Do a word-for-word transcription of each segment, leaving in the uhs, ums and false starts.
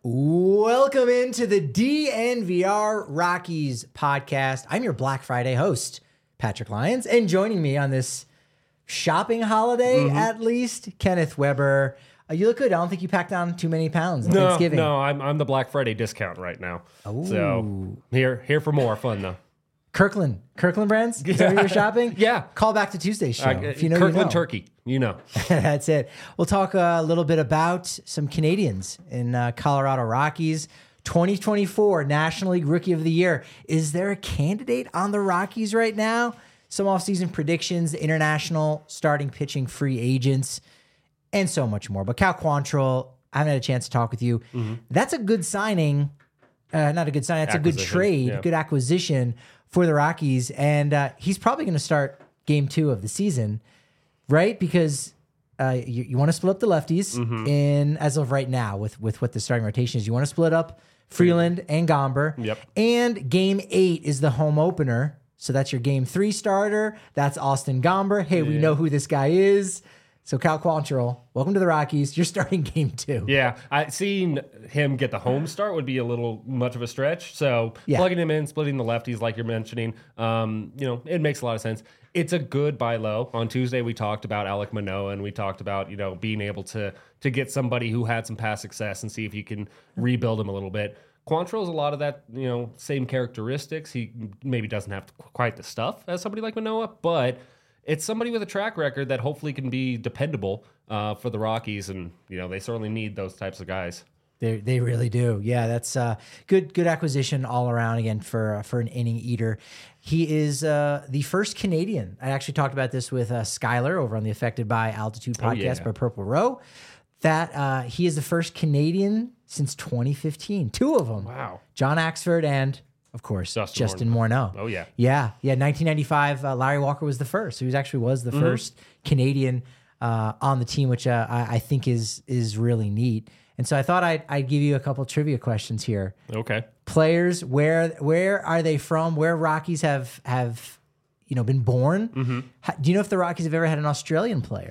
Welcome into the D N V R Rockies podcast. I'm your Black Friday host, Patrick Lyons, and joining me on this shopping holiday, mm-hmm. at least, Kenneth Weber. Uh, you look good. I don't think you packed on too many pounds on no, Thanksgiving. No, I'm I'm the Black Friday discount right now. Ooh. So here here for more fun though. Kirkland, Kirkland brands. Is that what you're shopping? Yeah. Call back to Tuesday's show. Uh, if you know, Kirkland you know. turkey. You know. That's it. We'll talk a little bit about some Canadians in uh, Colorado Rockies. twenty twenty-four National League Rookie of the Year. Is there a candidate on the Rockies right now? Some offseason predictions, international starting pitching free agents, and so much more. But Cal Quantrill, I haven't had a chance to talk with you. Mm-hmm. That's a good signing. Uh, not a good sign. That's a good trade, yeah. good acquisition for the Rockies. And uh, he's probably going to start game two of the season, right? Because uh, you, you want to split up the lefties mm-hmm. in as of right now with, with what the starting rotation is. You want to split up Freeland and Gomber. Yep. And game eight is the home opener. So that's your game three starter. That's Austin Gomber. Hey, yeah. we know who this guy is. So Cal Quantrill, welcome to the Rockies. You're starting game two. Yeah, I seeing him get the home start would be a little much of a stretch. So yeah. plugging him in, splitting the lefties like you're mentioning, um, you know, it makes a lot of sense. It's a good buy low. On Tuesday, we talked about Alek Manoah, and we talked about, you know, being able to to get somebody who had some past success and see if you can rebuild him a little bit. Quantrill has a lot of that, you know, same characteristics. He maybe doesn't have quite the stuff as somebody like Manoah, but it's somebody with a track record that hopefully can be dependable uh, for the Rockies, and you know they certainly need those types of guys. They they really do. Yeah, that's uh, good good acquisition all around again for uh, for an inning eater. He is uh, the first Canadian. I actually talked about this with uh, Skyler over on the Affected by Altitude podcast oh, yeah. by Purple Row. That uh, he is the first Canadian since twenty fifteen. Two of them. Wow. John Axford and, of course, Justin, Justin Morneau. Oh, yeah. Yeah. Yeah. nineteen ninety-five, uh, Larry Walker was the first. So he was actually was the mm-hmm. first Canadian uh, on the team, which uh, I, I think is is really neat. And so I thought I'd, I'd give you a couple trivia questions here. Okay. Players, where where are they from? Where Rockies have, have you know, been born? Mm-hmm. How, do you know if the Rockies have ever had an Australian player?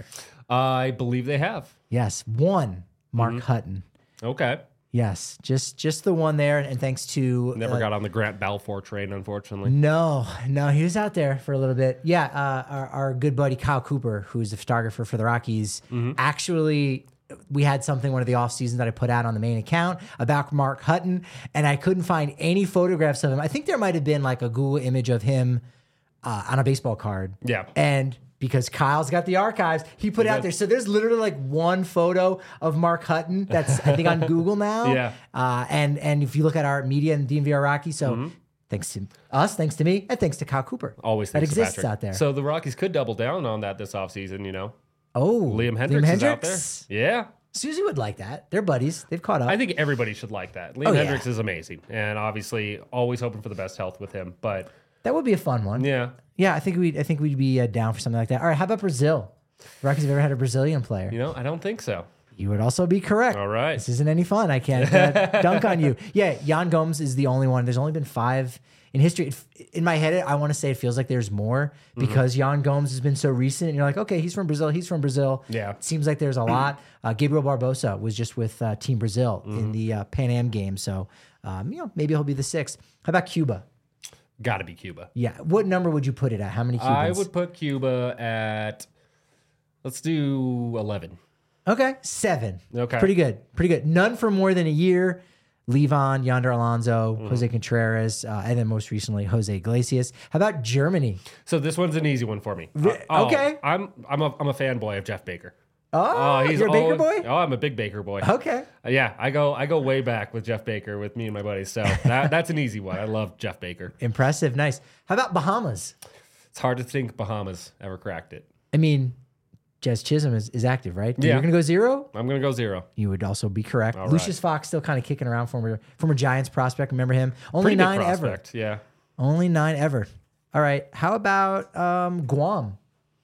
I believe they have. Yes. One, Mark mm-hmm. Hutton. Okay. Yes, just just the one there, and thanks to never uh, got on the Grant Balfour train, unfortunately. No, no, he was out there for a little bit. Yeah, uh, our, our good buddy Kyle Cooper, who's the photographer for the Rockies, mm-hmm. actually, we had something one of the off seasons that I put out on the main account about Mark Hutton, and I couldn't find any photographs of him. I think there might have been like a Google image of him uh, on a baseball card. Yeah, and. Because Kyle's got the archives, he put it out there. So there's literally like one photo of Mark Hutton that's I think on Google now. Yeah. Uh, and and if you look at our media and D N V R Rocky, so mm-hmm. thanks to us, thanks to me, and thanks to Kyle Cooper. Always that exists Patrick. out there. So the Rockies could double down on that this offseason, you know. Oh, Liam Hendricks, Liam is Hendricks? out there. Yeah. Susie would like that. They're buddies. They've caught up. I think everybody should like that. Liam oh, Hendricks yeah. is amazing, and obviously always hoping for the best health with him. But that would be a fun one. Yeah. Yeah, I think we'd I think we'd be uh, down for something like that. All right, how about Brazil? The Rockies have ever had a Brazilian player? You know, I don't think so. You would also be correct. All right. This isn't any fun. I can't uh, dunk on you. Yeah, Yan Gomes is the only one. There's only been five in history. In my head, I want to say it feels like there's more because mm-hmm. Yan Gomes has been so recent. And you're like, okay, he's from Brazil. He's from Brazil. Yeah. It seems like there's a lot. Uh, Gabriel Barbosa was just with uh, Team Brazil mm-hmm. in the uh, Pan Am game. So, um, you know, maybe he'll be the sixth. How about Cuba? Got to be Cuba. Yeah. What number would you put it at? How many Cubans? I would put Cuba at, let's do eleven. Okay. Seven. Okay. Pretty good. Pretty good. None for more than a year. Levon, Yonder Alonso, mm-hmm. Jose Contreras, uh, and then most recently, Jose Iglesias. How about Germany? So this one's an easy one for me. Re- uh, okay. Oh, I'm I'm a, I'm a fanboy of Jeff Baker. Oh, uh, he's you're a Baker always, boy? Oh, I'm a big Baker boy. Okay. Uh, yeah, I go I go way back with Jeff Baker with me and my buddies. So that, that's an easy one. I love Jeff Baker. Impressive. Nice. How about Bahamas? It's hard to think Bahamas ever cracked it. I mean, Jazz Chisholm is, is active, right? Yeah. You're going to go zero? I'm going to go zero. You would also be correct. All Lucius right. Fox still kind of kicking around, former, former Giants prospect. Remember him? Only Pretty nine good ever. prospect, yeah. Only nine ever. All right. How about um, Guam?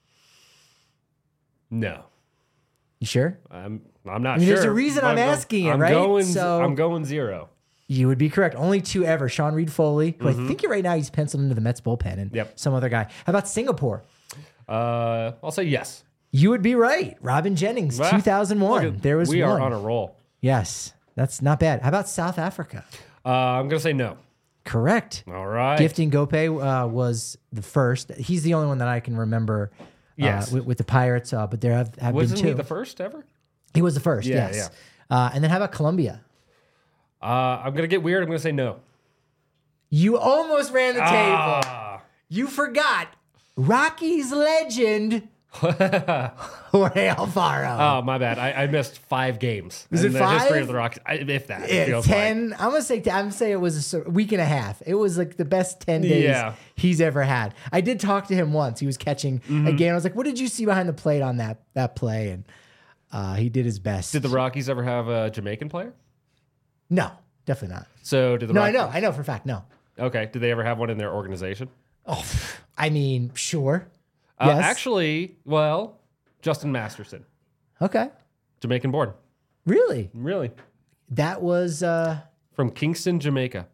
No. You sure? I'm I'm not I mean, sure. There's a reason I'm, I'm asking I'm it, right? Going, so I'm going zero. You would be correct. Only two ever. Sean Reed Foley, who mm-hmm. I think right now he's penciled into the Mets bullpen, and yep. some other guy. How about Singapore? Uh, I'll say yes. You would be right. Robin Jennings, well, two thousand one. At, there was we one. are on a roll. Yes. That's not bad. How about South Africa? Uh, I'm going to say no. Correct. All right. Gifting Gope uh, was the first. He's the only one that I can remember uh, Yes. with, with the Pirates, uh, but there have, have Wasn't been two. he the first ever? He was the first, Yeah, yes. Uh, and then how about Colombia? Uh, I'm going to get weird. I'm going to say no. You almost ran the table. Ah. You forgot Rockies legend Jorge Alfaro. Oh, my bad. I, I missed five games. Was in it the five? history of the Rockies. I, if that. It Yeah, feels ten. like. I'm gonna say. I'm gonna say it was a week and a half. It was like the best ten days Yeah. he's ever had. I did talk to him once. He was catching Mm-hmm. a game. I was like, "What did you see behind the plate on that that play?" And uh, he did his best. Did the Rockies ever have a Jamaican player? No, definitely not. So did the No, Rockies, I know. I know for a fact. No. Okay. Did they ever have one in their organization? Oh, I mean, sure. Uh, Yes. Actually, well, Justin Masterson, Okay. Jamaican born. Really? Really? That was. Uh, From Kingston, Jamaica.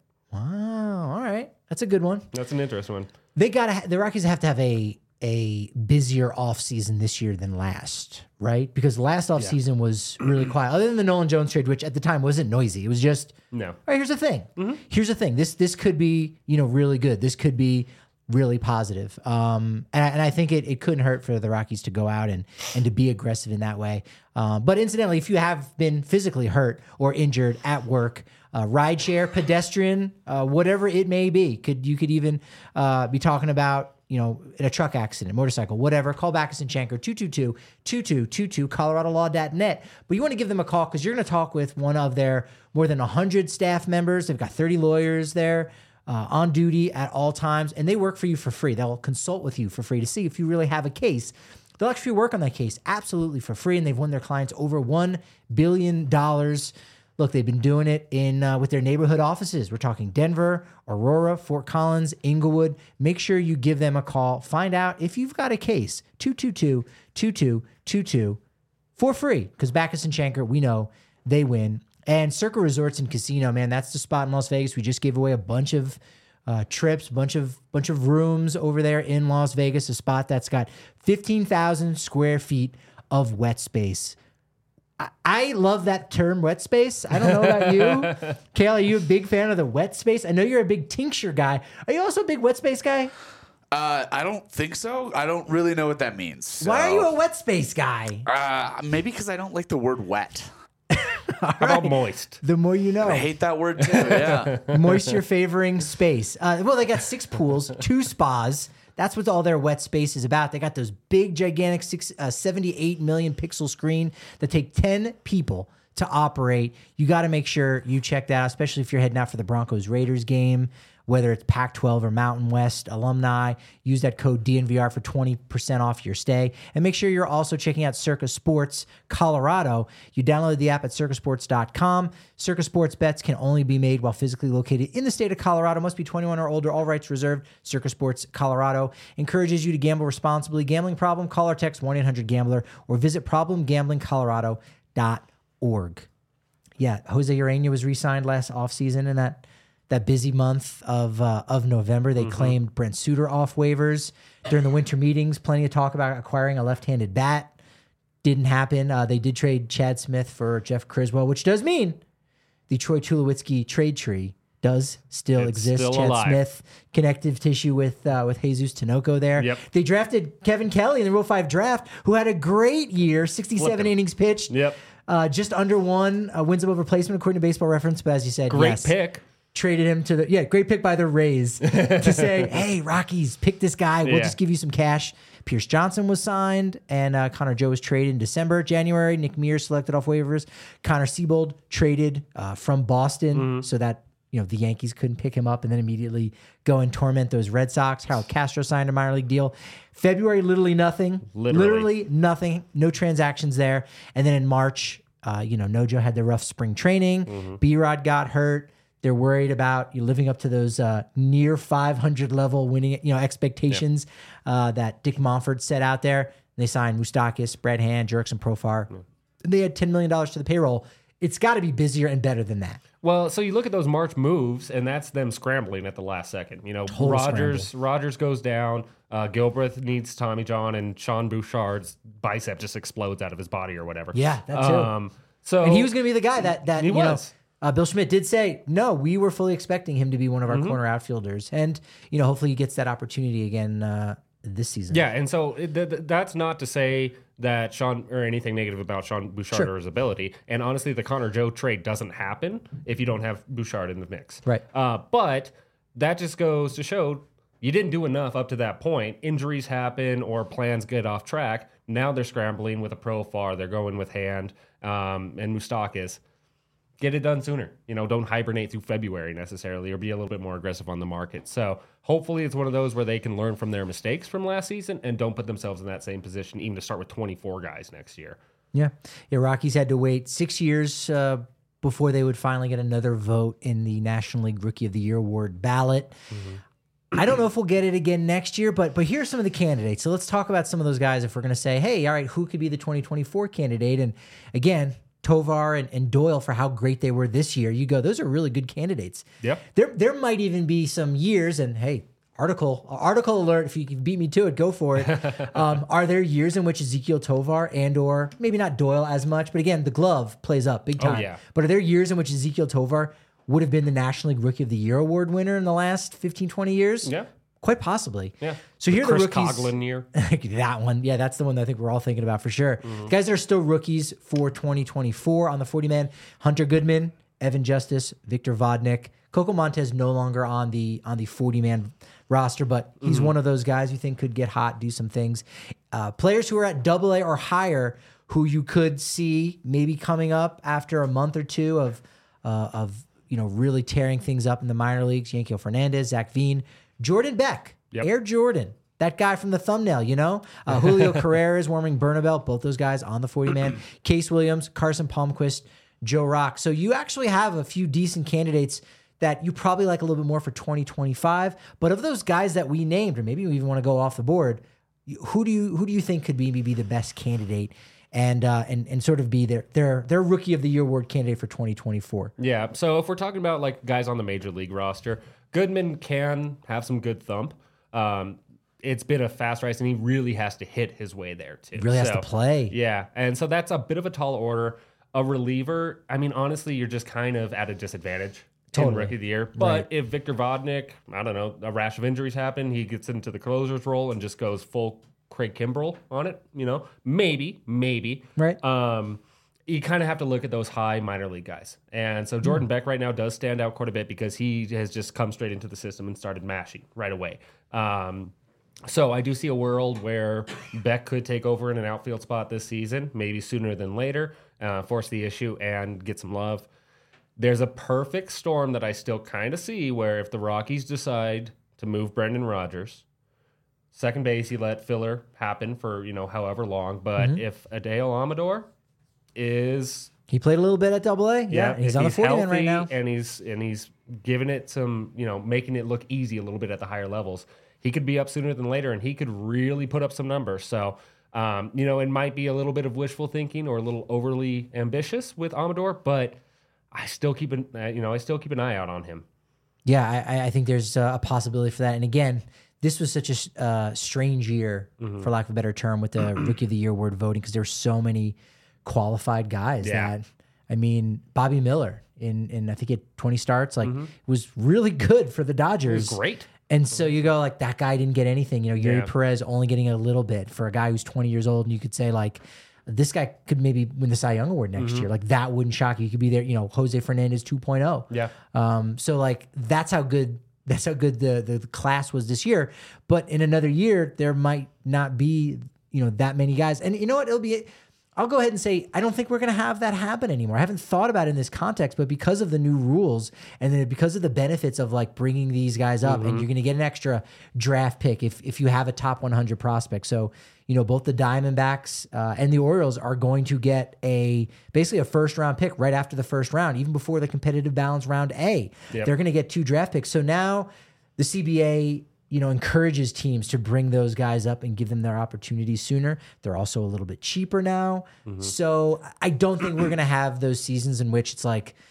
wow. All right. That's a good one. That's an interesting one. They got to. The Rockies have to have a a busier offseason this year than last, right? Because last offseason was really quiet. Other than the Nolan Jones trade, which at the time wasn't noisy. It was just, No. all right, here's the thing. Here's the thing. This this could be, you know, really good. This could be really positive. Um, and, I, and I think it, it couldn't hurt for the Rockies to go out and and to be aggressive in that way. Um, but incidentally, if you have been physically hurt or injured at work, uh, rideshare, pedestrian, uh, whatever it may be, could you could even uh, be talking about, you know, in a truck accident, motorcycle, whatever, call Backus and Shanker, two two two, two two two two, colorado law dot net. But you want to give them a call because you're going to talk with one of their more than one hundred staff members. They've got thirty lawyers there uh, on duty at all times, and they work for you for free. They'll consult with you for free to see if you really have a case. They'll actually work on that case absolutely for free, and they've won their clients over one billion dollars. Look, they've been doing it in uh, with their neighborhood offices. We're talking Denver, Aurora, Fort Collins, Inglewood. Make sure you give them a call. Find out if you've got a case. two two two, two two two two for free. Because Backus and Shanker, we know they win. And Circa Resorts and Casino, man, that's the spot in Las Vegas. We just gave away a bunch of uh, trips, bunch of bunch of rooms over there in Las Vegas. A spot that's got fifteen thousand square feet of wet space. I love that term, wet space. I don't know about you. Kale, are you a big fan of the wet space? I know you're a big tincture guy. Are you also a big wet space guy? Uh, I don't think so. I don't really know what that means. So. Why are you a wet space guy? Uh, maybe because I don't like the word wet. How about moist? The more you know. I hate that word too. Yeah. Moisture favoring space. Uh, well, they got six pools, two spas. That's what all their wet space is about. They got those big, gigantic six, uh, seventy-eight million pixel screen that take ten people to operate. You got to make sure you check that out, especially if you're heading out for the Broncos Raiders game, whether it's Pac twelve or Mountain West alumni. Use that code D N V R for twenty percent off your stay. And make sure you're also checking out Circa Sports Colorado. You download the app at circa sports dot com. Circa Sports bets can only be made while physically located in the state of Colorado. Must be twenty-one or older. All rights reserved. Circa Sports Colorado encourages you to gamble responsibly. Gambling problem? Call or text one eight hundred gambler or visit problem gambling colorado dot org. Yeah, Jose Urena was re-signed last offseason in that that busy month of uh, of November. They mm-hmm. claimed Brent Suter off waivers during the winter meetings. Plenty of talk about acquiring a left-handed bat. Didn't happen. Uh, they did trade Chad Smith for Jeff Criswell, which does mean the Troy Tulowitzki trade tree does still It's exist. still Chad alive. Smith, connective tissue with uh, with Jesus Tinoco there. Yep. They drafted Kevin Kelly in the Rule five draft, who had a great year, sixty-seven Flipping. innings pitched. Yep. Uh, just under one uh, wins above replacement according to Baseball Reference. But as you said, Great yes, pick. traded him to the yeah, great pick by the Rays to say, hey, Rockies, pick this guy. We'll Yeah. just give you some cash. Pierce Johnson was signed, and uh, Connor Joe was traded in December, January. Nick Mears selected off waivers. Connor Siebold traded uh, from Boston Mm-hmm. so that you know the Yankees couldn't pick him up and then immediately go and torment those Red Sox. Harold Castro signed a minor league deal. February, literally nothing. Literally. literally nothing. No transactions there. And then in March, uh, you know, Nojo had the rough spring training. Mm-hmm. B-Rod got hurt. They're worried about you living up to those uh, near five hundred level winning, you know, expectations uh, that Dick Monfort set out there. They signed Moustakis, Brad Hand, Jerks, and Profar. They had ten million dollars to the payroll. It's got to be busier and better than that. Well, so you look at those March moves, and that's them scrambling at the last second. You know, Total Rogers Rogers goes down. Uh, Gilbreth needs Tommy John, and Sean Bouchard's bicep just explodes out of his body or whatever. Yeah, that too. Um, so And he was going to be the guy that that He you know was. Uh, Bill Schmidt did say, no, we were fully expecting him to be one of our mm-hmm. corner outfielders. And, you know, hopefully he gets that opportunity again uh, this season. Yeah, and so th- th- that's not to say that Sean or anything negative about Sean Bouchard sure. or his ability. And honestly, the Connor Joe trade doesn't happen if you don't have Bouchard in the mix. Right. Uh, but that just goes to show you didn't do enough up to that point. Injuries happen or plans get off track. Now they're scrambling with a Profar. They're going with Hand um, and Moustakas. Get it done sooner. You know, don't hibernate through February necessarily or be a little bit more aggressive on the market. So hopefully it's one of those where they can learn from their mistakes from last season and don't put themselves in that same position even to start with twenty-four guys next year. Yeah. Yeah, Rockies had to wait six years uh, before they would finally get another vote in the National League Rookie of the Year award ballot. Mm-hmm. I don't know if we'll get it again next year, but but here's some of the candidates. So let's talk about some of those guys if we're going to say, hey, all right, who could be the twenty twenty-four candidate? And again, Tovar and, and Doyle for how great they were this year. You go, those are really good candidates. Yep. There there might even be some years, and hey, article article alert, if you can beat me to it, go for it. um, are there years in which Ezequiel Tovar and or maybe not Doyle as much, but again, the glove plays up big time. Oh, yeah. But are there years in which Ezequiel Tovar would have been the National League Rookie of the Year award winner in the last fifteen, twenty years? Yeah. Quite possibly. Yeah. So here are the Chris rookies. Coughlin year. That one. Yeah, that's the one that I think we're all thinking about for sure. Mm-hmm. The guys that are still rookies for twenty twenty-four on the forty-man, Hunter Goodman, Evan Justice, Victor Vodnik. Coco Montez no longer on the on the forty-man roster, but he's mm-hmm. one of those guys you think could get hot, do some things. Uh, players who are at double A or higher who you could see maybe coming up after a month or two of, uh, of you know, really tearing things up in the minor leagues. Yankiel Fernandez, Zach Veen, Jordan Beck, yep. Air Jordan, that guy from the thumbnail, you know? Uh, Julio Carreras, Warming Bernabelt, both those guys on the forty-man. Case Williams, Carson Palmquist, Joe Rock. So you actually have a few decent candidates that you probably like a little bit more for twenty twenty-five. But of those guys that we named, or maybe we even want to go off the board, who do you who do you think could be be the best candidate and uh, and and sort of be their their their Rookie of the Year award candidate for twenty twenty-four? Yeah. So if we're talking about like guys on the major league roster, Goodman can have some good thump. Um, it's been a fast rise, and he really has to hit his way there too. Really has so, to play. Yeah, and so that's a bit of a tall order. A reliever, I mean, honestly, you're just kind of at a disadvantage totally. in Rookie of the Year. But right. if Victor Vodnik, I don't know, a rash of injuries happen, he gets into the closer's role and just goes full Craig Kimbrell on it, you know, maybe, maybe. Right. Um, you kind of have to look at those high minor league guys. And so Jordan mm. Beck right now does stand out quite a bit because he has just come straight into the system and started mashing right away. Um, so I do see a world where Beck could take over in an outfield spot this season, maybe sooner than later, uh, force the issue and get some love. There's a perfect storm that I still kind of see where if the Rockies decide to move Brendan Rodgers, second base, you let filler happen for, you know, however long. But mm-hmm. if Adele Amador is... He played a little bit at double A. Yeah, yeah he's on the forty-man right now. And he's, and he's giving it some, you know, making it look easy a little bit at the higher levels. He could be up sooner than later, and he could really put up some numbers. So, um, you know, it might be a little bit of wishful thinking or a little overly ambitious with Amador, but I still keep an, uh, you know, I still keep an eye out on him. Yeah, I, I think there's a possibility for that. And again, this was such a uh, strange year, mm-hmm. for lack of a better term, with the Rookie of the Year award voting because there were so many qualified guys yeah. that, I mean, Bobby Miller in, in I think it twenty starts, like mm-hmm. was really good for the Dodgers. It was great. And so you go like, that guy didn't get anything. You know, Yuri yeah. Perez only getting a little bit for a guy who's twenty years old. And you could say like, this guy could maybe win the Cy Young Award next mm-hmm. year. Like that wouldn't shock you. You could be there, you know, Jose Fernandez two point oh. Yeah. Um, so like, that's how good, that's how good the, the, the class was this year. But in another year, there might not be, you know, that many guys. And you know what? It'll be, I'll go ahead and say, I don't think we're going to have that happen anymore. I haven't thought about it in this context, but because of the new rules and then because of the benefits of like bringing these guys up, mm-hmm. and you're going to get an extra draft pick if if you have a top one hundred prospect. So, you know, both the Diamondbacks uh, and the Orioles are going to get a basically a first round pick right after the first round, even before the competitive balance round A. Yep. They're going to get two draft picks. So now the C B A, you know, encourages teams to bring those guys up and give them their opportunities sooner. They're also a little bit cheaper now. Mm-hmm. So I don't think we're going to have those seasons in which it's like,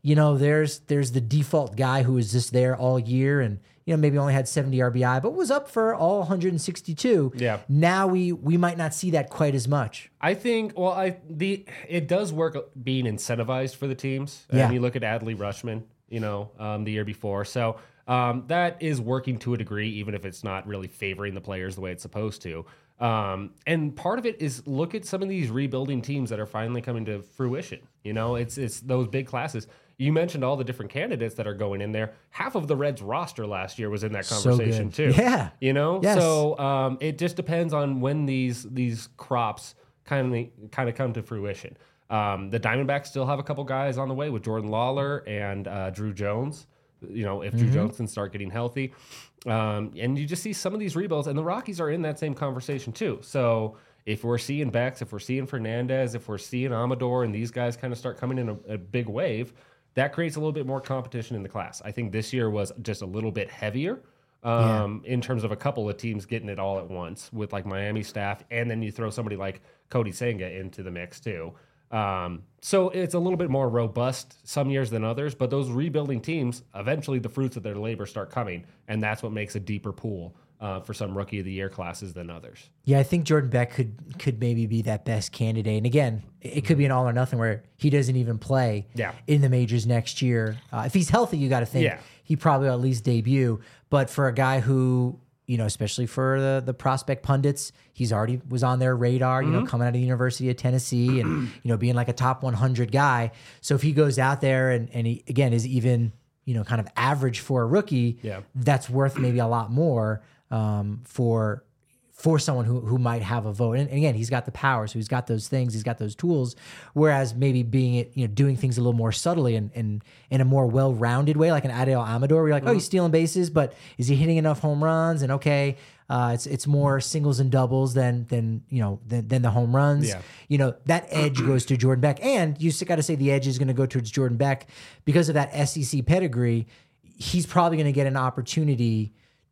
you know, there's there's the default guy who was just there all year and, you know, maybe only had seventy R B I, but was up for all one hundred sixty-two. Yeah. Now we we might not see that quite as much. I think, well, I the it does work being incentivized for the teams. Yeah. And you look at Adley Rushman, you know, um, the year before. So um, that is working to a degree, even if it's not really favoring the players the way it's supposed to. Um, and part of it is look at some of these rebuilding teams that are finally coming to fruition. You know, it's it's those big classes. You mentioned all the different candidates that are going in there. Half of the Reds roster last year was in that conversation so too. Yeah. You know, yes. so um, it just depends on when these these crops kind of kind of come to fruition. Um, the Diamondbacks still have a couple guys on the way with Jordan Lawler and uh, Drew Jones. You know, if mm-hmm. Drew Jones can start getting healthy. Um, and you just see some of these rebuilds, and the Rockies are in that same conversation too. So if we're seeing Bex, if we're seeing Fernandez, if we're seeing Amador, and these guys kind of start coming in a, a big wave, that creates a little bit more competition in the class. I think this year was just a little bit heavier um, yeah. in terms of a couple of teams getting it all at once with like Miami staff, and then you throw somebody like Cody Senga into the mix too. Um, so it's a little bit more robust some years than others, but those rebuilding teams, eventually the fruits of their labor start coming, and that's what makes a deeper pool uh, for some Rookie of the Year classes than others. Yeah, I think Jordan Beck could could maybe be that best candidate. And again, it could be an all or nothing where he doesn't even play yeah. in the majors next year. Uh, if he's healthy, you got to think yeah. he probably will at least debut. But for a guy who, you know, especially for the, the prospect pundits, he's already was on their radar, you mm-hmm. know, coming out of the University of Tennessee and, you know, being like a top one hundred guy. So if he goes out there and, and he, again, is even, you know, kind of average for a rookie, yeah. that's worth maybe a lot more um, for for someone who who might have a vote. And, and again, he's got the power, so he's got those things, he's got those tools. Whereas maybe being it, you know, doing things a little more subtly and, and in a more well-rounded way, like an Adel Amador, where you're like, mm-hmm. oh, he's stealing bases, but is he hitting enough home runs? And okay, uh, it's it's more singles and doubles than than you know than, than the home runs. Yeah. You know, that edge goes to Jordan Beck, and you got to say the edge is going to go towards Jordan Beck because of that S E C pedigree. He's probably going to get an opportunity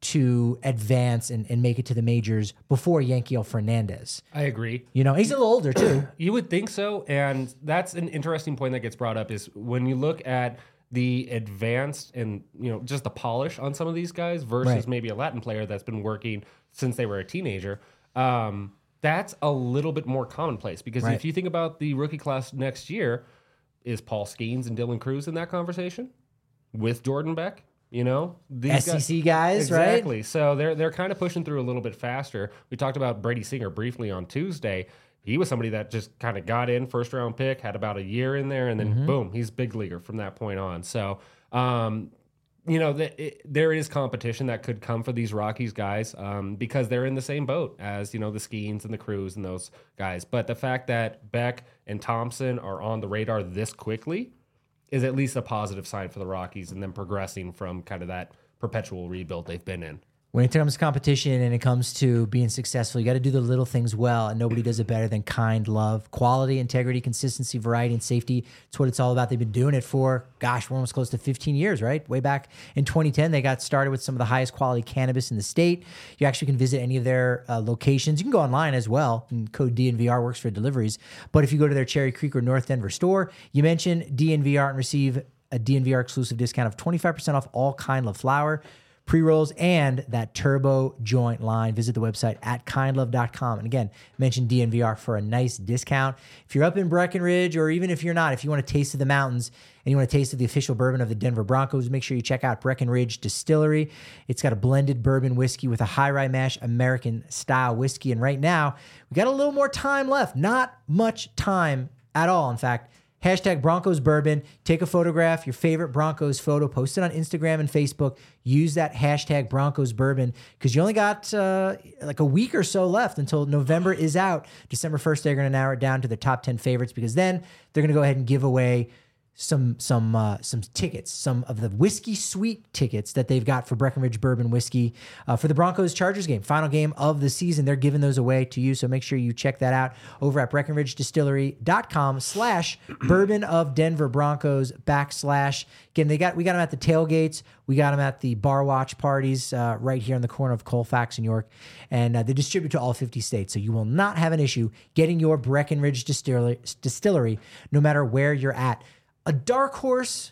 to advance and, and make it to the majors before Yankiel Fernandez. I agree. You know, he's a little older too. You would think so. And that's an interesting point that gets brought up is when you look at the advanced and, you know, just the polish on some of these guys versus Right. maybe a Latin player that's been working since they were a teenager. Um, that's a little bit more commonplace because Right. if you think about the rookie class next year, is Paul Skeens and Dylan Cruz in that conversation with Jordan Beck? You know, these S E C guys, right? Exactly. So they're they're kind of pushing through a little bit faster. We talked about Brady Singer briefly on Tuesday. He was somebody that just kind of got in, first round pick, had about a year in there, and then Mm-hmm. boom, he's big leaguer from that point on. So, um, you know, the, it, there is competition that could come for these Rockies guys um, because they're in the same boat as, you know, the Skeens and the Cruz and those guys. But the fact that Beck and Thompson are on the radar this quickly is at least a positive sign for the Rockies and them progressing from kind of that perpetual rebuild they've been in. When it comes to competition and it comes to being successful, you got to do the little things well, and nobody does it better than kind love. Quality, integrity, consistency, variety, and safety. It's what it's all about. They've been doing it for, gosh, we're almost close to fifteen years, right? Way back in twenty ten, they got started with some of the highest quality cannabis in the state. You actually can visit any of their uh, locations. You can go online as well, and code D N V R works for deliveries. But if you go to their Cherry Creek or North Denver store, you mention D N V R and receive a D N V R exclusive discount of twenty-five percent off all Kind Love flower, pre-rolls, and that turbo joint line. Visit the website at kind love dot com. And again, mention D N V R for a nice discount. If you're up in Breckenridge, or even if you're not, if you want a taste of the mountains and you want a taste of the official bourbon of the Denver Broncos, make sure you check out Breckenridge Distillery. It's got a blended bourbon whiskey with a high rye mash American style whiskey. And right now, we got a little more time left. Not much time at all, in fact. Hashtag Broncos Bourbon. Take a photograph, your favorite Broncos photo, post it on Instagram and Facebook. Use that hashtag Broncos Bourbon because you only got uh, like a week or so left until November is out. December first, they're going to narrow it down to the top ten favorites because then they're going to go ahead and give away some some uh, some tickets, some of the Whiskey Suite tickets that they've got for Breckenridge Bourbon Whiskey uh, for the Broncos-Chargers game, final game of the season. They're giving those away to you, so make sure you check that out over at Breckenridge Distillery dot com slash Bourbon of Denver Broncos backslash. Again, they got we got them at the tailgates, we got them at the bar watch parties uh, right here in the corner of Colfax and York, and uh, they distribute to all fifty states, so you will not have an issue getting your Breckenridge Distillery, distillery no matter where you're at. A dark horse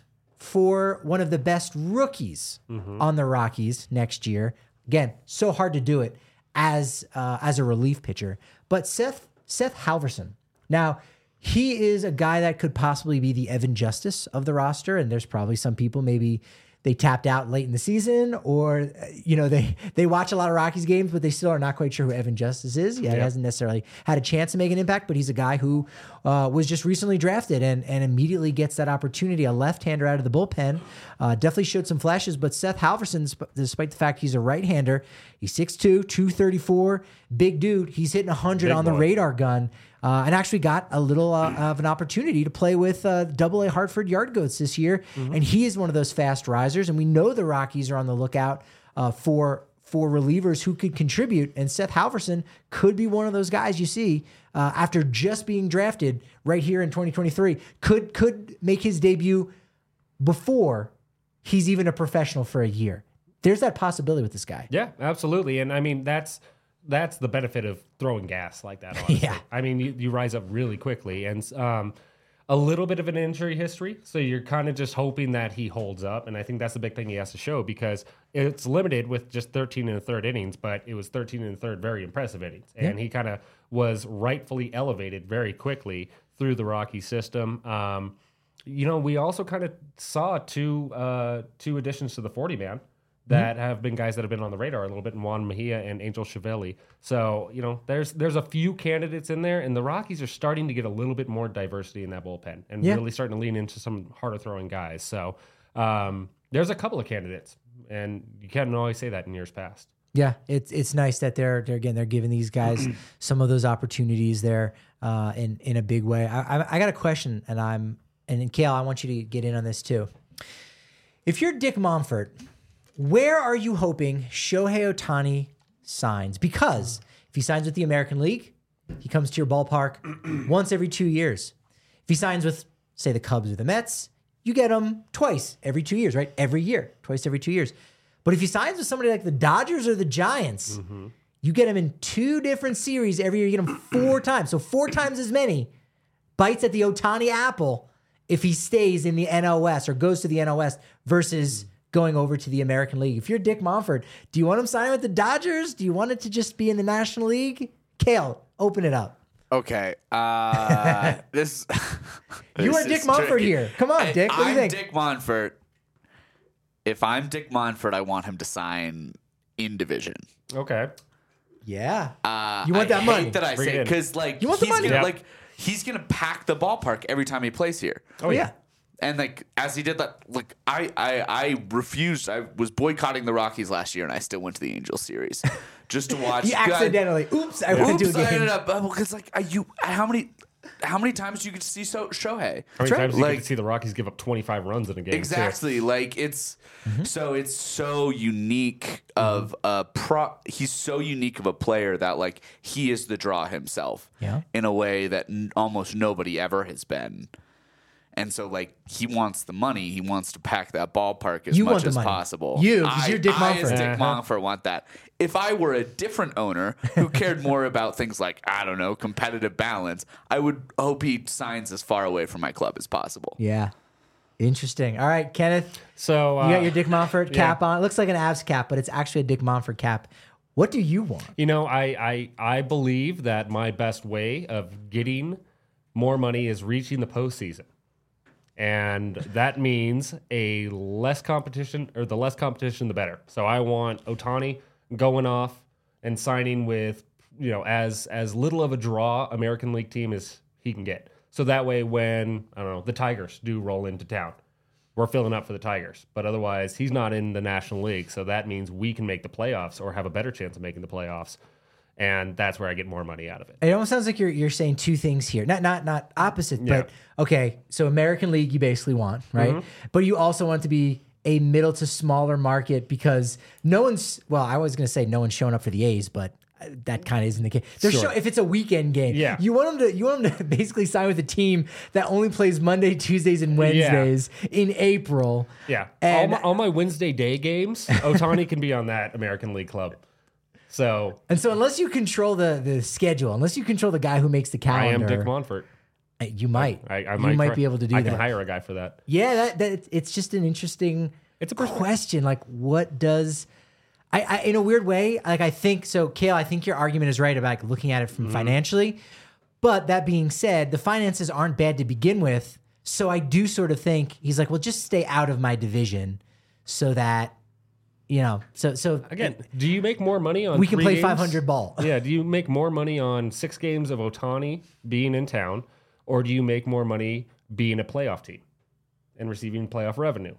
for one of the best rookies mm-hmm. on the Rockies next year. Again, so hard to do it as uh, as a relief pitcher. But Seth Seth Halverson. Now, he is a guy that could possibly be the Evan Justice of the roster, and there's probably some people maybe they tapped out late in the season, or you know they they watch a lot of Rockies games, but they still are not quite sure who Evan Justice is. Yeah, yeah. He hasn't necessarily had a chance to make an impact, but he's a guy who uh, was just recently drafted and and immediately gets that opportunity. A left-hander out of the bullpen, uh, definitely showed some flashes. But Seth Halverson, despite the fact he's a right-hander, he's six two, two thirty-four, big dude. He's hitting one hundred big on the boy. radar gun. Uh, and actually got a little uh, of an opportunity to play with uh, Double A Hartford Yard Goats this year, mm-hmm. and he is one of those fast risers. And we know the Rockies are on the lookout uh, for for relievers who could contribute. And Seth Halverson could be one of those guys you see uh, after just being drafted right here in twenty twenty-three. Could could make his debut before he's even a professional for a year. There's that possibility with this guy. Yeah, absolutely. And I mean that's. That's the benefit of throwing gas like that, honestly. Yeah. I mean, you, you rise up really quickly, and um, a little bit of an injury history, so you're kind of just hoping that he holds up, and I think that's the big thing he has to show, because it's limited with just thirteen and a third innings, but it was thirteen and a third very impressive innings, and yeah. he kind of was rightfully elevated very quickly through the Rocky system. Um, you know, we also kind of saw two uh, two additions to the forty-man. That have been guys that have been on the radar a little bit, in Juan Mejia and Angel Chiavelli. So, you know, there's there's a few candidates in there, and the Rockies are starting to get a little bit more diversity in that bullpen and yeah. really starting to lean into some harder throwing guys. So um, there's a couple of candidates, and you can't always say that in years past. Yeah, it's it's nice that they're they're again they're giving these guys some of those opportunities there uh, in in a big way. I, I I got a question, and I'm and Kale, I want you to get in on this too. If you're Dick Monfort, where are you hoping Shohei Ohtani signs? Because if he signs with the American League, he comes to your ballpark once every two years. If he signs with, say, the Cubs or the Mets, you get him twice every two years, right? Every year, twice every two years. But if he signs with somebody like the Dodgers or the Giants, mm-hmm. you get him in two different series every year. You get him four times. So four times as many bites at the Ohtani apple if he stays in the N L West or goes to the N L West versus going over to the American League. If you're Dick Monfort, do you want him signing with the Dodgers? Do you want it to just be in the National League? Kale, open it up. Okay. Uh, this. You this are Dick Monfort tricky. Here. Come on, Dick. What do you I'm think? Dick Monfort. If I'm Dick Monfort, I want him to sign in division. Okay. Yeah. Uh, you want that I money? Hate that I Bring say because like you want the he's money? Gonna, Yep. like he's gonna pack the ballpark every time he plays here. Oh yeah. And like as he did that, like I, I, I refused. I was boycotting the Rockies last year, and I still went to the Angels series just to watch. He accidentally. I, oops! I went to a game. I ended up because like I, you. How many? How many times do you get to see so, Shohei? How many right. times do you like, get to see the Rockies give up twenty-five runs in a game? Exactly. Too? Like it's mm-hmm. so it's so unique of mm-hmm. a pro. He's so unique of a player that like he is the draw himself. Yeah. In a way that n- almost nobody ever has been. And so, like, he wants the money. He wants to pack that ballpark as you much as money. possible. You, because you're Dick I, Monfort. I, as Dick uh-huh. Monfort, want that. If I were a different owner who cared more about things like, I don't know, competitive balance, I would hope he signs as far away from my club as possible. Yeah. Interesting. All right, Kenneth. So uh, you got your Dick Monfort cap yeah. on. It looks like an Avs cap, but it's actually a Dick Monfort cap. What do you want? You know, I, I, I believe that my best way of getting more money is reaching the postseason. And that means a less competition, or the less competition, the better. So I want Ohtani going off and signing with, you know, as as little of a draw American League team as he can get. So that way, when I don't know the Tigers do roll into town, we're filling up for the Tigers. But otherwise, he's not in the National League, so that means we can make the playoffs or have a better chance of making the playoffs. And that's where I get more money out of it. It almost sounds like you're you're saying two things here. Not not not opposite, yeah. but okay. So American League you basically want, right? Mm-hmm. But you also want it to be a middle to smaller market because no one's well, I was gonna say no one's showing up for the A's, but that kind of isn't the case. They're sure. show, if it's a weekend game, yeah. you want them to you want them to basically sign with a team that only plays Monday, Tuesdays, and Wednesdays yeah. in April. Yeah, all my, all my Wednesday day games, Ohtani can be on that American League club. So and so unless you control the the schedule, unless you control the guy who makes the calendar, I am Dick Monfort. You might. I, I you might, might try- be able to do I that. can hire a guy for that. Yeah, that, that it's just an interesting It's a question. Like, what does I, I in a weird way? Like, I think so, Kale. I think your argument is right about like, looking at it from Mm-hmm. financially. But that being said, the finances aren't bad to begin with. So I do sort of think he's like, well, just stay out of my division, so that you know. So so Again, do you make more money on we can three play games? five hundred ball. Yeah, do you make more money on six games of Ohtani being in town, or do you make more money being a playoff team and receiving playoff revenue?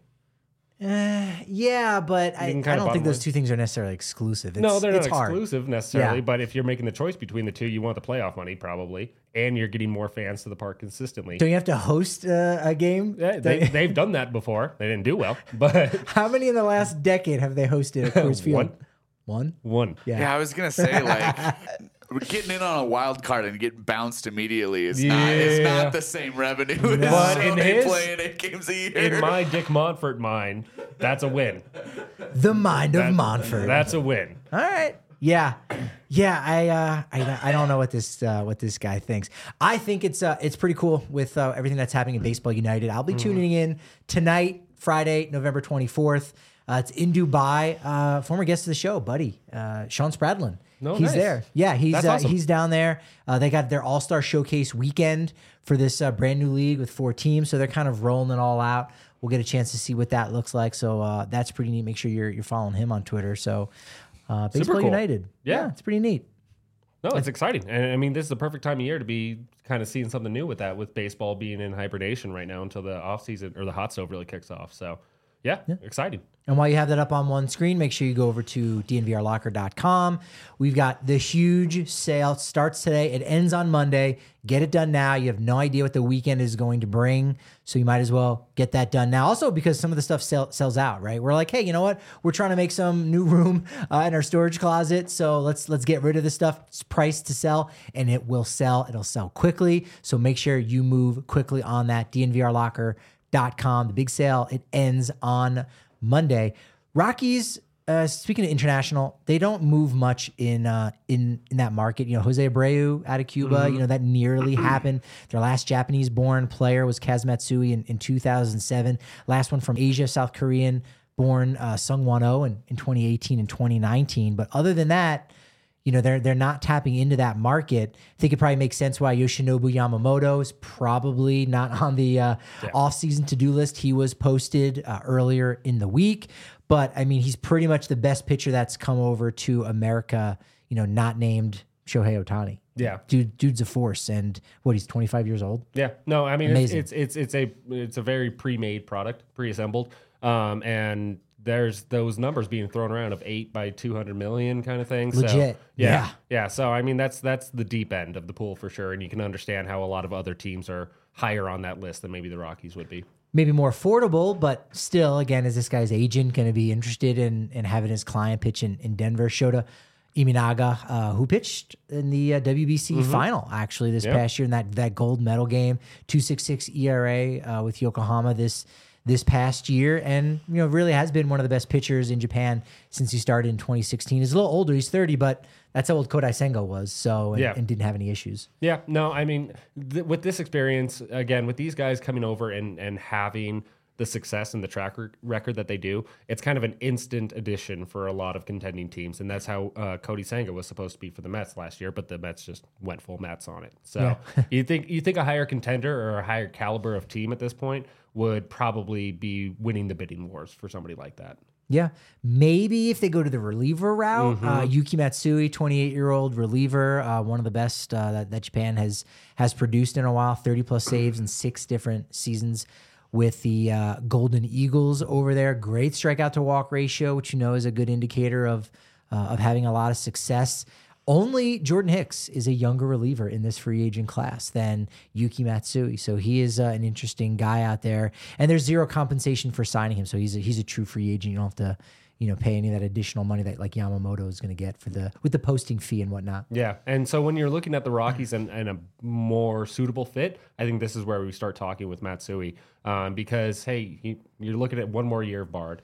Uh, yeah, but I, I can don't kinda think bottom those line. two things are necessarily exclusive. It's, No, they're it's not hard. exclusive necessarily, Yeah. but if you're making the choice between the two, you want the playoff money probably, and you're getting more fans to the park consistently. Don't you have to host uh, a game? Yeah, they, they've done that before. They didn't do well, but How many in the last decade have they hosted at Coors Field? One. One? one. Yeah. Yeah, I was gonna say like we're getting in on a wild card and getting bounced immediately is not it's Yeah. not the same revenue as But in they his- playing eight games a year. In my Dick Montfort mind, that's a win. The mind of That- Montfort. That's a win. All right. Yeah. Yeah, I uh I, I don't know what this uh, what this guy thinks. I think it's uh it's pretty cool with uh, everything that's happening in Baseball United. I'll be Mm-hmm. tuning in tonight, Friday, November twenty-fourth. Uh, it's in Dubai. Uh, former guest of the show, buddy, uh, Sean Spradlin. No, he's nice. there. Yeah, he's That's uh, awesome. he's down there. Uh, they got their All Star Showcase weekend for this uh, brand new league with four teams, so they're kind of rolling it all out. We'll get a chance to see what that looks like. So uh, that's pretty neat. Make sure you're you're following him on Twitter. So uh, Baseball cool. United. Yeah. it's pretty neat. No, it's exciting. And I mean, this is the perfect time of year to be kind of seeing something new with that, with baseball being in hibernation right now until the off season or the hot stove really kicks off. So, yeah, exciting. And while you have that up on one screen, make sure you go over to d n v r locker dot com. We've got the huge sale. It starts today. It ends on Monday. Get it done now. You have no idea what the weekend is going to bring, so you might as well get that done now. Also, because some of the stuff sell, sells out, right? We're like, hey, you know what? We're trying to make some new room uh, in our storage closet, so let's let's get rid of this stuff. It's priced to sell, and it will sell. It'll sell quickly, so make sure you move quickly on that. d n v r locker dot com. The big sale, it ends on Monday. Rockies, uh, speaking of international, they don't move much in uh, in in that market. You know, Jose Abreu out of Cuba, you know, that nearly happened. Their last Japanese-born player was Kaz Matsui in, in two thousand seven. Last one from Asia, South Korean-born uh, Sung Won-oh in, in twenty eighteen and twenty nineteen. But other than that, you know, they're they're not tapping into that market. I think it probably makes sense why Yoshinobu Yamamoto is probably not on the uh, Yeah. off-season to-do list. He was posted uh, earlier in the week, but I mean, he's pretty much the best pitcher that's come over to America. You know, not named Shohei Ohtani. Yeah. dude, dude's a force, and what, he's twenty-five years old. Yeah, no, I mean it's, Amazing. it's it's it's a it's a very pre-made product, pre-assembled, um, and there's those numbers being thrown around of eight by two hundred million kind of thing. So, Legit. yeah, Yeah. yeah. So I mean that's that's the deep end of the pool for sure, and you can understand how a lot of other teams are higher on that list than maybe the Rockies would be. Maybe more affordable, but still, again, is this guy's agent going to be interested in in having his client pitch in, in Denver? Shota Iminaga, uh, who pitched in the uh, W B C final actually this Yeah. past year in that that gold medal game, two point six six E R A uh, with Yokohama this this past year, and you know really has been one of the best pitchers in Japan since he started in twenty sixteen. He's a little older, he's thirty, but that's how old Kodai Senga was, so and, Yeah. and didn't have any issues. Yeah, no, I mean, th- with this experience, again, with these guys coming over and, and having the success and the track rec- record that they do, it's kind of an instant addition for a lot of contending teams. And that's how uh, Cody Senga was supposed to be for the Mets last year, but the Mets just went full Mets on it. So you think you think a higher contender or a higher caliber of team at this point would probably be winning the bidding wars for somebody like that. Yeah, maybe if they go to the reliever route, Mm-hmm. uh, Yuki Matsui, twenty-eight-year-old reliever, uh, one of the best uh, that, that Japan has has produced in a while, thirty plus saves in six different seasons with the uh, Golden Eagles over there. Great strikeout to walk ratio, which you know is a good indicator of uh, of having a lot of success. Only Jordan Hicks is a younger reliever in this free agent class than Yuki Matsui. So he is uh, an interesting guy out there. And there's zero compensation for signing him. So he's a, he's a true free agent. You don't have to, you know, pay any of that additional money that like Yamamoto is going to get for the with the posting fee and whatnot. Yeah, and so when you're looking at the Rockies and, and a more suitable fit, I think this is where we start talking with Matsui um, because, hey, he, you're looking at one more year of Bard.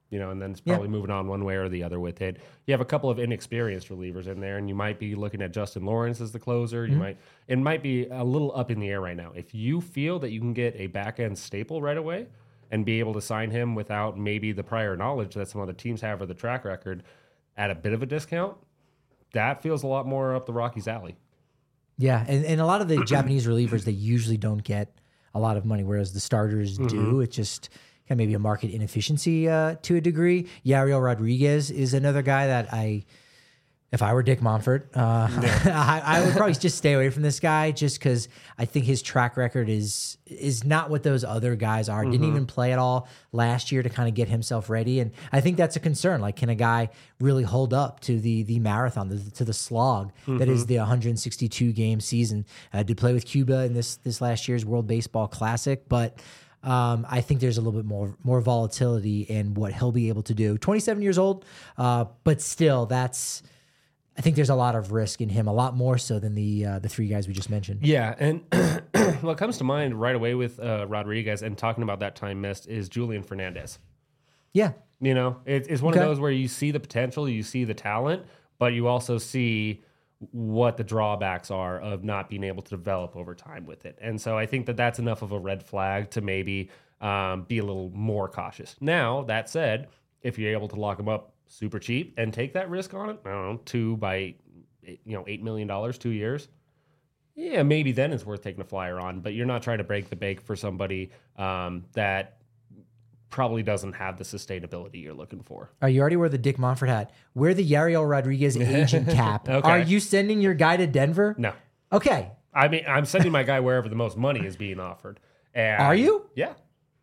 You know, and then it's probably yeah. moving on one way or the other with it. You have a couple of inexperienced relievers in there, and you might be looking at Justin Lawrence as the closer. You mm-hmm. might it might be a little up in the air right now. If you feel that you can get a back end staple right away and be able to sign him without maybe the prior knowledge that some other teams have or the track record at a bit of a discount, that feels a lot more up the Rockies' alley. Yeah, and, and a lot of the Japanese relievers, they usually don't get a lot of money, whereas the starters mm-hmm. do. It's just kind of maybe a market inefficiency uh, to a degree. Yariel Rodriguez is another guy that I, if I were Dick Monfort, uh, yeah. I, I would probably just stay away from this guy just because I think his track record is is not what those other guys are. Mm-hmm. Didn't even play at all last year to kind of get himself ready, and I think that's a concern. Like, can a guy really hold up to the the marathon, the, to the slog mm-hmm. that is the one hundred sixty-two game season? Uh, did play with Cuba in this this last year's World Baseball Classic, but. Um, I think there's a little bit more more volatility in what he'll be able to do. twenty-seven years old, uh, but still, that's. I think there's a lot of risk in him, a lot more so than the uh, the three guys we just mentioned. Yeah, and what comes to mind right away with uh, Rodriguez and talking about that time missed is Julian Fernandez. Yeah, you know, it, it's one okay. of those where you see the potential, you see the talent, but you also see what the drawbacks are of not being able to develop over time with it. And so I think that that's enough of a red flag to maybe um, be a little more cautious. Now, that said, if you're able to lock them up super cheap and take that risk on it, I don't know, two by, you know, eight million dollars, two years, yeah, maybe then it's worth taking a flyer on, but you're not trying to break the bank for somebody um, that probably doesn't have the sustainability you're looking for. Are you already wear the Dick Monfort hat? Wear the Yariel Rodriguez agent cap. Okay. Are you sending your guy to Denver? No. Okay. I mean, I'm sending my guy wherever the most money is being offered. And are you? Yeah.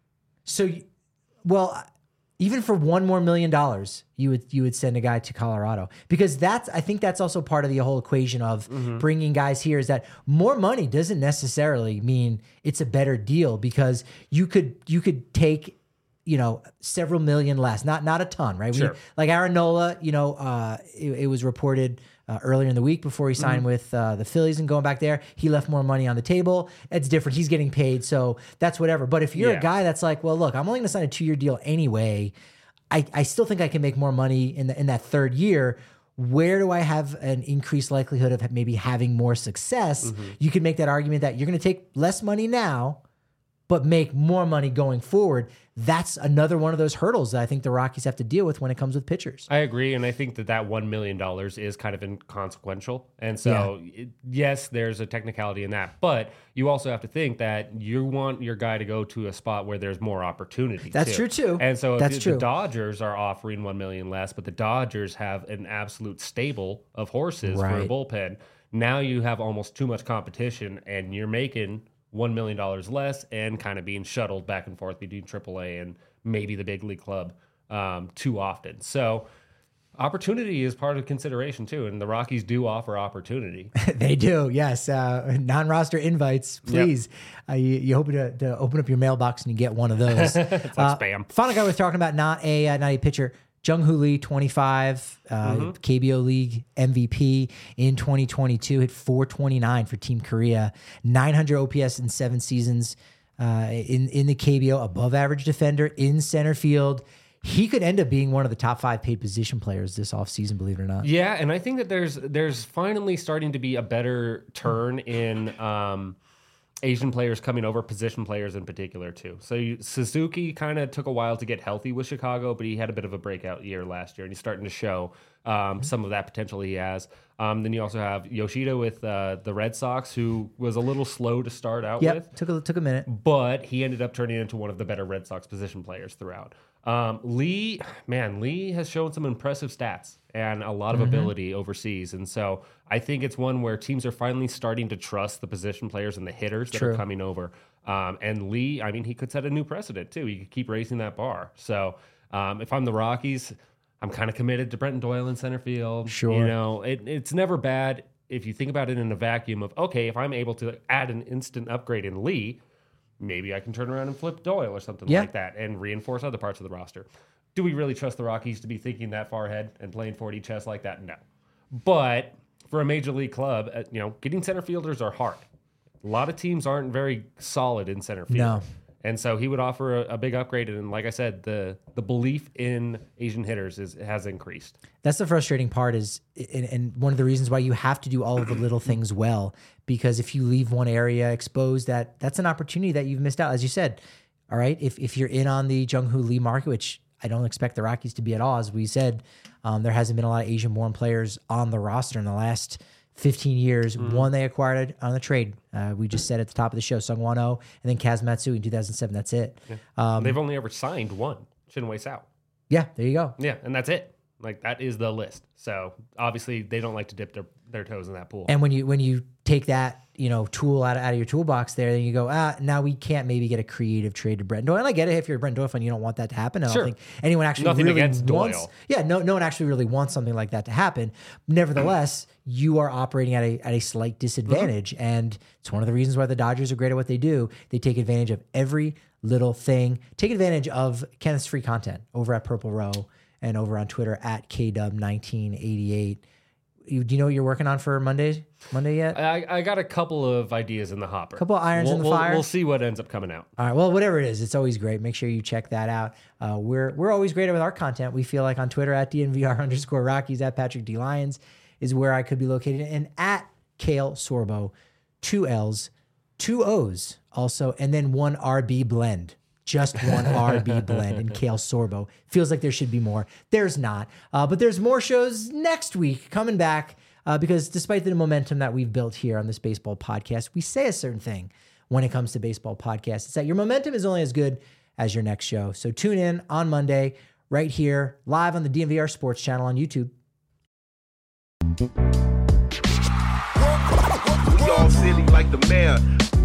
So, well, even for one more million dollars, you would you would send a guy to Colorado, because that's I think that's also part of the whole equation of mm-hmm. bringing guys here, is that more money doesn't necessarily mean it's a better deal, because you could you could take, you know, several million less, not not a ton, right? Sure. We, like Aaron Nola, you know, uh, it, it was reported uh, earlier in the week before he signed mm-hmm. with uh, the Phillies and going back there, he left more money on the table. It's different. He's getting paid, so that's whatever. But if you're yeah. a guy that's like, well, look, I'm only going to sign a two-year deal anyway, I, I still think I can make more money in the, in that third year. Where do I have an increased likelihood of maybe having more success? Mm-hmm. You can make that argument that you're going to take less money now, but make more money going forward. That's another one of those hurdles that I think the Rockies have to deal with when it comes with pitchers. I agree, and I think that that one million dollars is kind of inconsequential. And so, yeah. it, yes, there's a technicality in that, but you also have to think that you want your guy to go to a spot where there's more opportunity. That's too. true, too. And so if That's the, true. the Dodgers are offering one million dollars less, but the Dodgers have an absolute stable of horses right. for a bullpen, now you have almost too much competition, and you're making one million dollars less and kind of being shuttled back and forth between triple A and maybe the big league club um, too often. So opportunity is part of consideration too, and the Rockies do offer opportunity. They do, yes. Uh, non-roster invites, please. Yep. Uh, you, you hope to, to open up your mailbox and you get one of those. It's like uh, spam. Final guy we're talking about, not a uh, not a pitcher. Jung-Hoo Lee, twenty-five, uh, mm-hmm. K B O League M V P in twenty twenty-two, hit four twenty-nine for Team Korea, nine hundred O P S in seven seasons uh, in, in the K B O, above average defender in center field. He could end up being one of the top five paid position players this offseason, believe it or not. Yeah, and I think that there's there's finally starting to be a better turn in um, Asian players coming over, position players in particular too. So you, Suzuki kind of took a while to get healthy with Chicago, but he had a bit of a breakout year last year, and he's starting to show um, mm-hmm. some of that potential he has. Um, then you also have Yoshida with uh, the Red Sox, who was a little slow to start out yep, with. took a took a minute, but he ended up turning into one of the better Red Sox position players throughout. Um, Lee, man, Lee has shown some impressive stats and a lot of mm-hmm. ability overseas. And so I think it's one where teams are finally starting to trust the position players and the hitters that True. are coming over. Um, and Lee, I mean, he could set a new precedent too. He could keep raising that bar. So um, if I'm the Rockies, I'm kind of committed to Brenton Doyle in center field. Sure. You know, it, it's never bad if you think about it in a vacuum of, okay, if I'm able to add an instant upgrade in Lee, maybe I can turn around and flip Doyle or something yeah. like that and reinforce other parts of the roster. Do we really trust the Rockies to be thinking that far ahead and playing four D chess like that? No. But for a major league club, uh, you know, getting center fielders are hard. A lot of teams aren't very solid in center field. No. And so he would offer a, a big upgrade. And like I said, the the belief in Asian hitters is has increased. That's the frustrating part is, and, and one of the reasons why you have to do all of the little things well, because if you leave one area exposed, that that's an opportunity that you've missed out. As you said, all right, if, if you're in on the Jung-Hoo Lee market, which I don't expect the Rockies to be at all, as we said, um, there hasn't been a lot of Asian-born players on the roster in the last fifteen years. Mm. One they acquired on the trade. Uh, we just said at the top of the show, Sung Won Oh, and then Kaz Matsui in two thousand seven. That's it. Yeah. Um, They've only ever signed one, Shin-Wei Sao. Yeah, there you go. Yeah, and that's it. Like, that is the list. So obviously they don't like to dip their, their toes in that pool. And when you when you take that, you know, tool out of, out of your toolbox there, then you go, ah, now we can't maybe get a creative trade to Brent Doyle. And I get it, if you're a Brent Doyle fan, you don't want that to happen. I don't sure. think anyone actually Nothing really against wants. Doyle. Yeah, no, no one actually really wants something like that to happen. Nevertheless, you are operating at a at a slight disadvantage, mm-hmm. and it's one of the reasons why the Dodgers are great at what they do. They take advantage of every little thing. Take advantage of Kenneth's free content over at Purple Row and over on Twitter at K Dub nineteen eighty-eight. You, do you know what you're working on for Monday? Monday yet? I, I got a couple of ideas in the hopper. A couple of irons we'll, in the we'll, fire. We'll see what ends up coming out. All right. Well, whatever it is, it's always great. Make sure you check that out. Uh, we're we're always great with our content. We feel like on Twitter at D N V R underscore Rockies, at Patrick D Lyons is where I could be located, and at Kale Sorbo, two L's, two O's also, and then one R B blend. Just one R B blend in Kale Sorbo. Feels like there should be more. There's not. Uh, but there's more shows next week coming back uh, because despite the momentum that we've built here on this baseball podcast, we say a certain thing when it comes to baseball podcasts. It's that your momentum is only as good as your next show. So tune in on Monday right here, live on the D N V R Sports channel on YouTube. We all silly like the mayor.